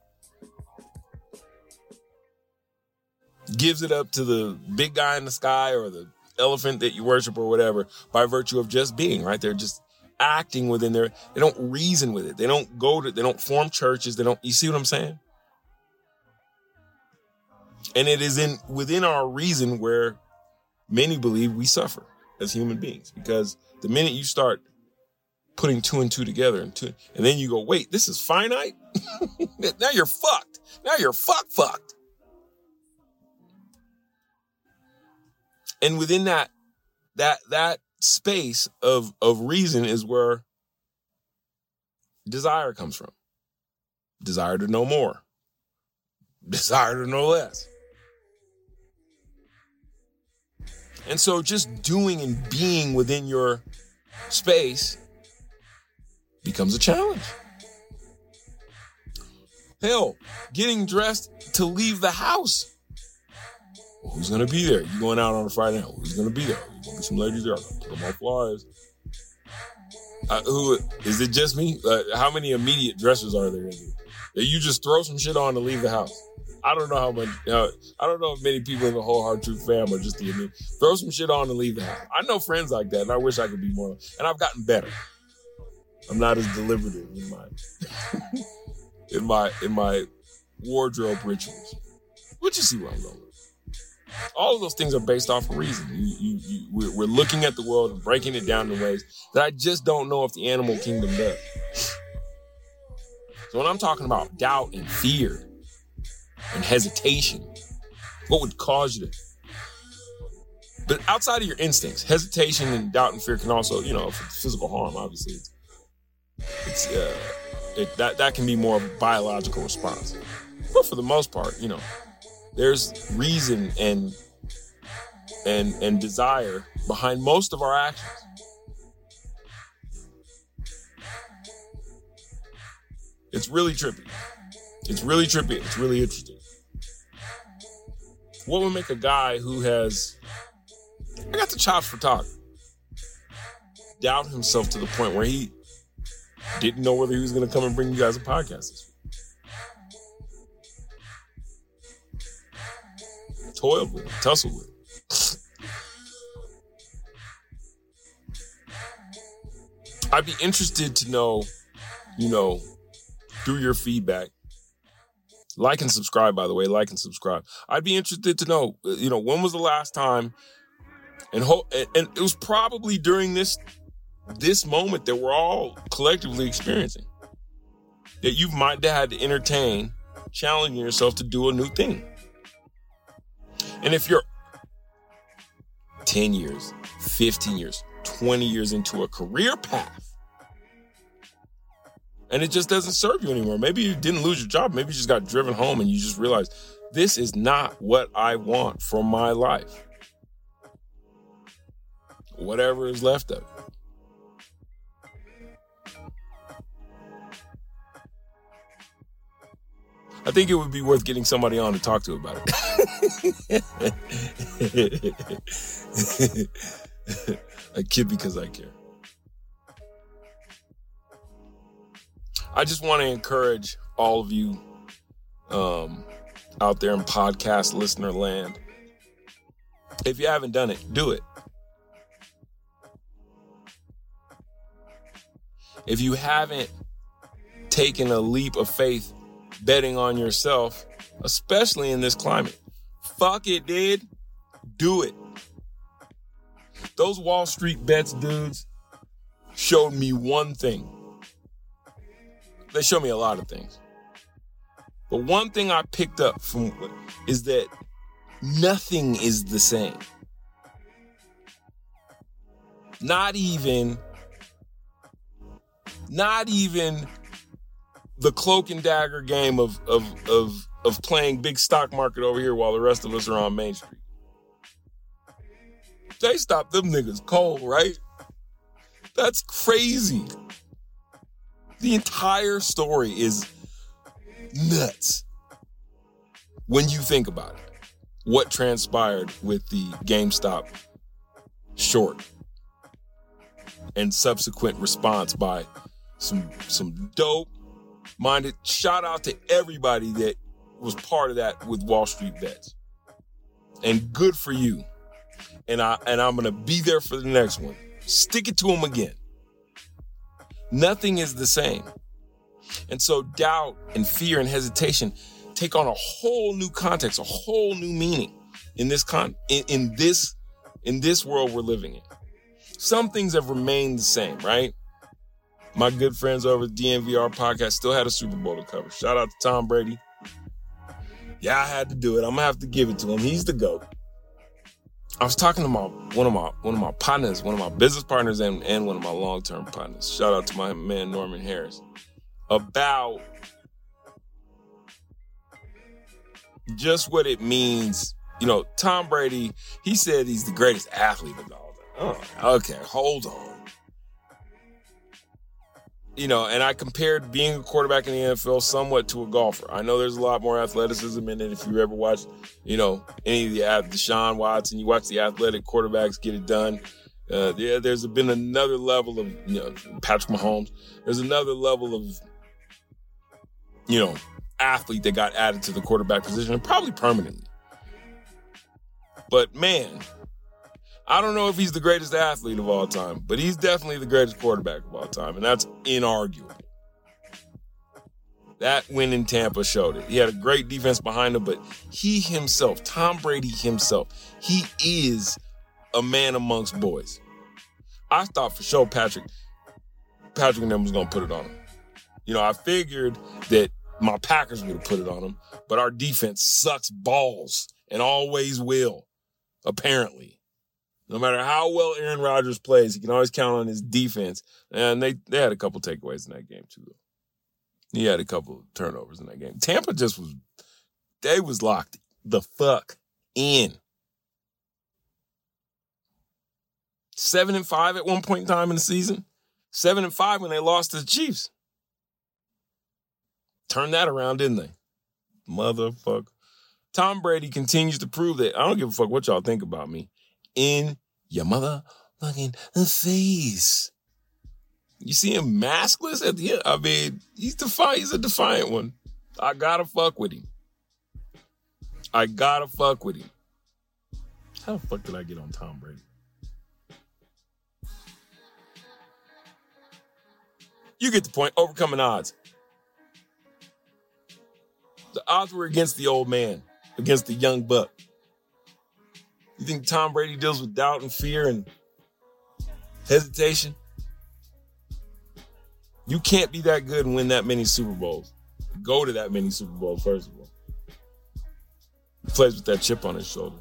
Gives it up to the big guy in the sky or the elephant that you worship or whatever by virtue of just being, right? They're just acting within they don't reason with it. They don't form churches. You see what I'm saying? And it is within our reason where many believe we suffer as human beings, because the minute you start putting two and two together and then you go, wait, this is finite? Now you're fucked. Now you're fucked. And within that space of reason is where desire comes from. Desire to know more. Desire to know less. And so just doing and being within your space becomes a challenge. Hell, getting dressed to leave the house. Well, who's going to be there? You going out on a Friday night? Who's going to be there? You going to get some ladies there? Put them on flyers. Who is it? Just me? How many immediate dressers are there in here? That you just throw some shit on to leave the house? I don't know how much. I don't know if many people in the Whole Hard Truth fam are just throw some shit on and leave the house. I know friends like that, and I wish I could be more. And I've gotten better. I'm not as deliberative in my wardrobe rituals. But you see where I'm going. All of those things are based off of reason. We're looking at the world and breaking it down in ways that I just don't know if the animal kingdom does. So when I'm talking about doubt and fear and hesitation, what would cause you to... But outside of your instincts, hesitation and doubt and fear can also, physical harm, obviously. That can be more of a biological response. But for the most part, there's reason and desire behind most of our actions. It's really trippy. It's really interesting. What would make a guy who has, I got the chops for talk, doubt himself to the point where he didn't know whether he was going to come and bring you guys a podcast this week? Toiled with it, tussled with it. I'd be interested to know, through your feedback. Like and subscribe, by the way. Like and subscribe. I'd be interested to know, when was the last time, and it was probably during this moment that we're all collectively experiencing, that you might have had to entertain challenging yourself to do a new thing. And if you're 10 years, 15 years, 20 years into a career path, and it just doesn't serve you anymore. Maybe you didn't lose your job. Maybe you just got driven home and you just realized, this is not what I want from my life. Whatever is left of it. I think it would be worth getting somebody on to talk to about it. I kid because I care. I just want to encourage all of you out there in podcast listener land. If you haven't done it, do it. If you haven't taken a leap of faith betting on yourself, especially in this climate, fuck it, dude. Do it. Those Wall Street bets dudes showed me one thing. They show me a lot of things. But one thing I picked up from is that nothing is the same. Not even the cloak and dagger game of playing big stock market over here while the rest of us are on Main Street. They stopped them niggas cold, right? That's crazy. The entire story is nuts when you think about it. What transpired with the GameStop short and subsequent response by some dope-minded. Shout out to everybody that was part of that with Wall Street Bets. And good for you. And I'm going to be there for the next one. Stick it to them again. Nothing is the same. And so doubt and fear and hesitation take on a whole new context, a whole new meaning in this world we're living in. Some things have remained the same, right? My good friends over at DNVR podcast still had a Super Bowl to cover. Shout out to Tom Brady. Yeah, I had to do it. I'm gonna have to give it to him. He's the GOAT. I was talking to one of my partners, one of my business partners, and one of my long-term partners. Shout out to my man Norman Harris about just what it means. Tom Brady. He said he's the greatest athlete of all time. Oh, okay, hold on. And I compared being a quarterback in the NFL somewhat to a golfer. I know there's a lot more athleticism in it. If you ever watch, any of the Deshaun Watson, you watch the athletic quarterbacks get it done. There's been another level of, Patrick Mahomes. There's another level of, athlete that got added to the quarterback position, and probably permanently. But man, I don't know if he's the greatest athlete of all time, but he's definitely the greatest quarterback of all time, and that's inarguable. That win in Tampa showed it. He had a great defense behind him, but he himself, Tom Brady himself, he is a man amongst boys. I thought for sure Patrick and them was going to put it on him. I figured that my Packers would have put it on them, but our defense sucks balls and always will, apparently. No matter how well Aaron Rodgers plays, he can always count on his defense. And they had a couple takeaways in that game, too, though. He had a couple of turnovers in that game. Tampa they was locked the fuck in. 7-5 at one point in time in the season. 7-5 when they lost to the Chiefs. Turned that around, didn't they? Motherfucker. Tom Brady continues to prove that I don't give a fuck what y'all think about me. In your motherfucking face. You see him maskless at the end? I mean, he's a defiant one. I gotta fuck with him. How the fuck did I get on Tom Brady? You get the point. Overcoming odds. The odds were against the old man, against the young buck. You think Tom Brady deals with doubt and fear and hesitation? You can't be that good and win that many Super Bowls. Go to that many Super Bowls, first of all. He plays with that chip on his shoulder.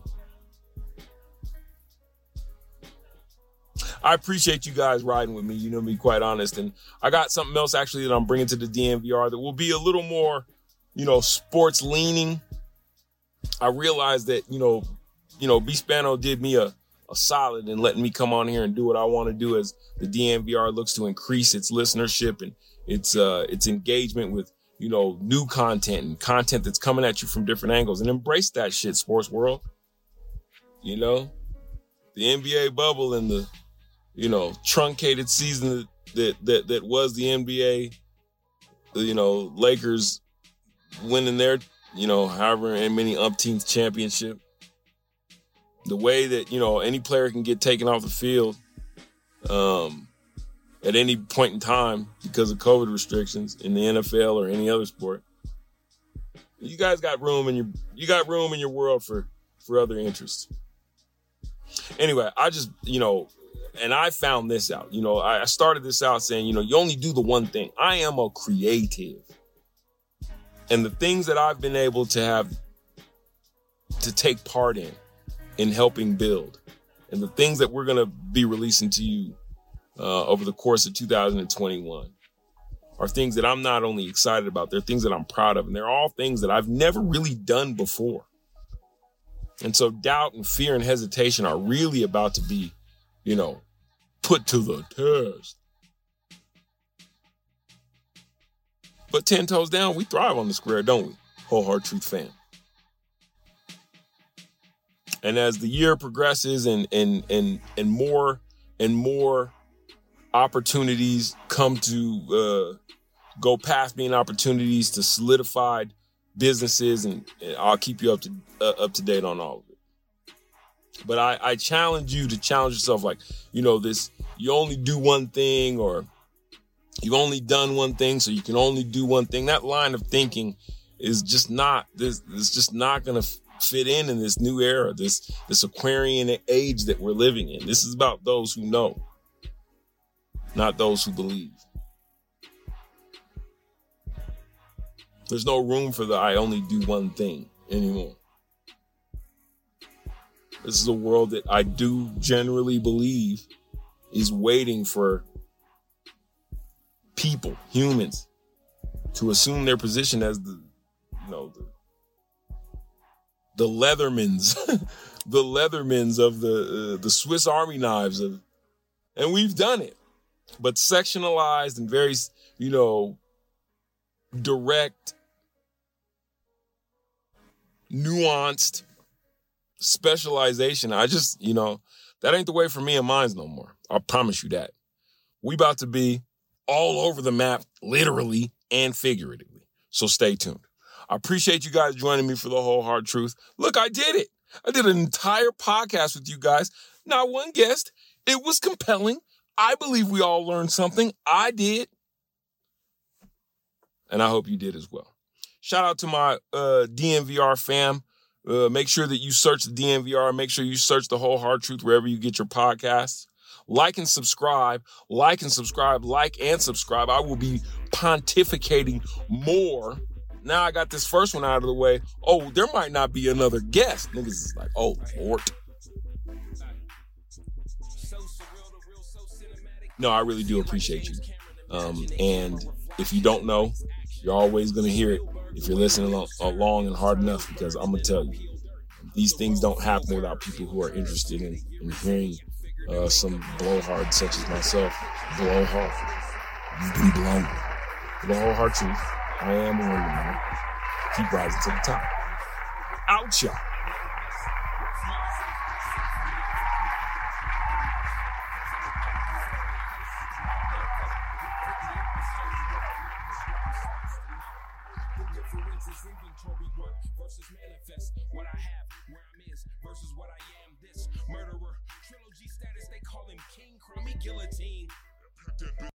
I appreciate you guys riding with me, to be quite honest. And I got something else actually that I'm bringing to the DNVR that will be a little more, sports leaning. I realized that, B Spano did me a solid in letting me come on here and do what I want to do as the DNVR looks to increase its listenership and its engagement with, new content and content that's coming at you from different angles, and embrace that shit, sports world. The NBA bubble and the, truncated season that was the NBA, Lakers winning their, however many umpteenth championship. The way that, any player can get taken off the field at any point in time because of COVID restrictions in the NFL or any other sport. You guys got room in your world for other interests. Anyway, I just, and I found this out. I started this out saying, you only do the one thing. I am a creative. And the things that I've been able to have to take part in helping build, and the things that we're going to be releasing to you over the course of 2021 are things that I'm not only excited about, they're things that I'm proud of. And they're all things that I've never really done before. And so doubt and fear and hesitation are really about to be, put to the test. But 10 toes down, we thrive on the square, don't we? Whole Hard Truth fam. And as the year progresses and more and more opportunities come to go past being opportunities to solidified businesses, and I'll keep you up to date on all of it. But I challenge you to challenge yourself, like, this, you only do one thing, or you've only done one thing, so you can only do one thing. That line of thinking is just not this. It's just not going to fit in this new era, this Aquarian age that we're living in. This is about those who know, not those who believe. There's no room for the I only do one thing anymore. This is a world that I do generally believe is waiting for people, humans, to assume their position as the Leathermans, the Leathermans of the Swiss Army knives of, and we've done it, but sectionalized and very, direct, nuanced specialization. I just, that ain't the way for me and mine no more. I promise you that. We about to be all over the map, literally and figuratively. So stay tuned. I appreciate you guys joining me for the Whole Hard Truth. Look, I did it. I did an entire podcast with you guys. Not one guest. It was compelling. I believe we all learned something. I did. And I hope you did as well. Shout out to my DNVR fam. Make sure that you search the DNVR. Make sure you search the Whole Hard Truth wherever you get your podcasts. Like and subscribe. Like and subscribe. Like and subscribe. I will be pontificating more. Now I got this first one out of the way. Oh, there might not be another guest. Niggas is like, oh, Lord. No, I really do appreciate you. And if you don't know, you're always going to hear it if you're listening long and hard enough, because I'm going to tell you, these things don't happen without people who are interested in hearing some blowhards such as myself. Blowhard. You've been blown. For the whole hard truth, I am the one man. Keep rising to the top. Out, y'all. Inventory work versus manifest. What I have, where I'm is versus what I am. This murderer, trilogy status, they call him king. Call me guillotine.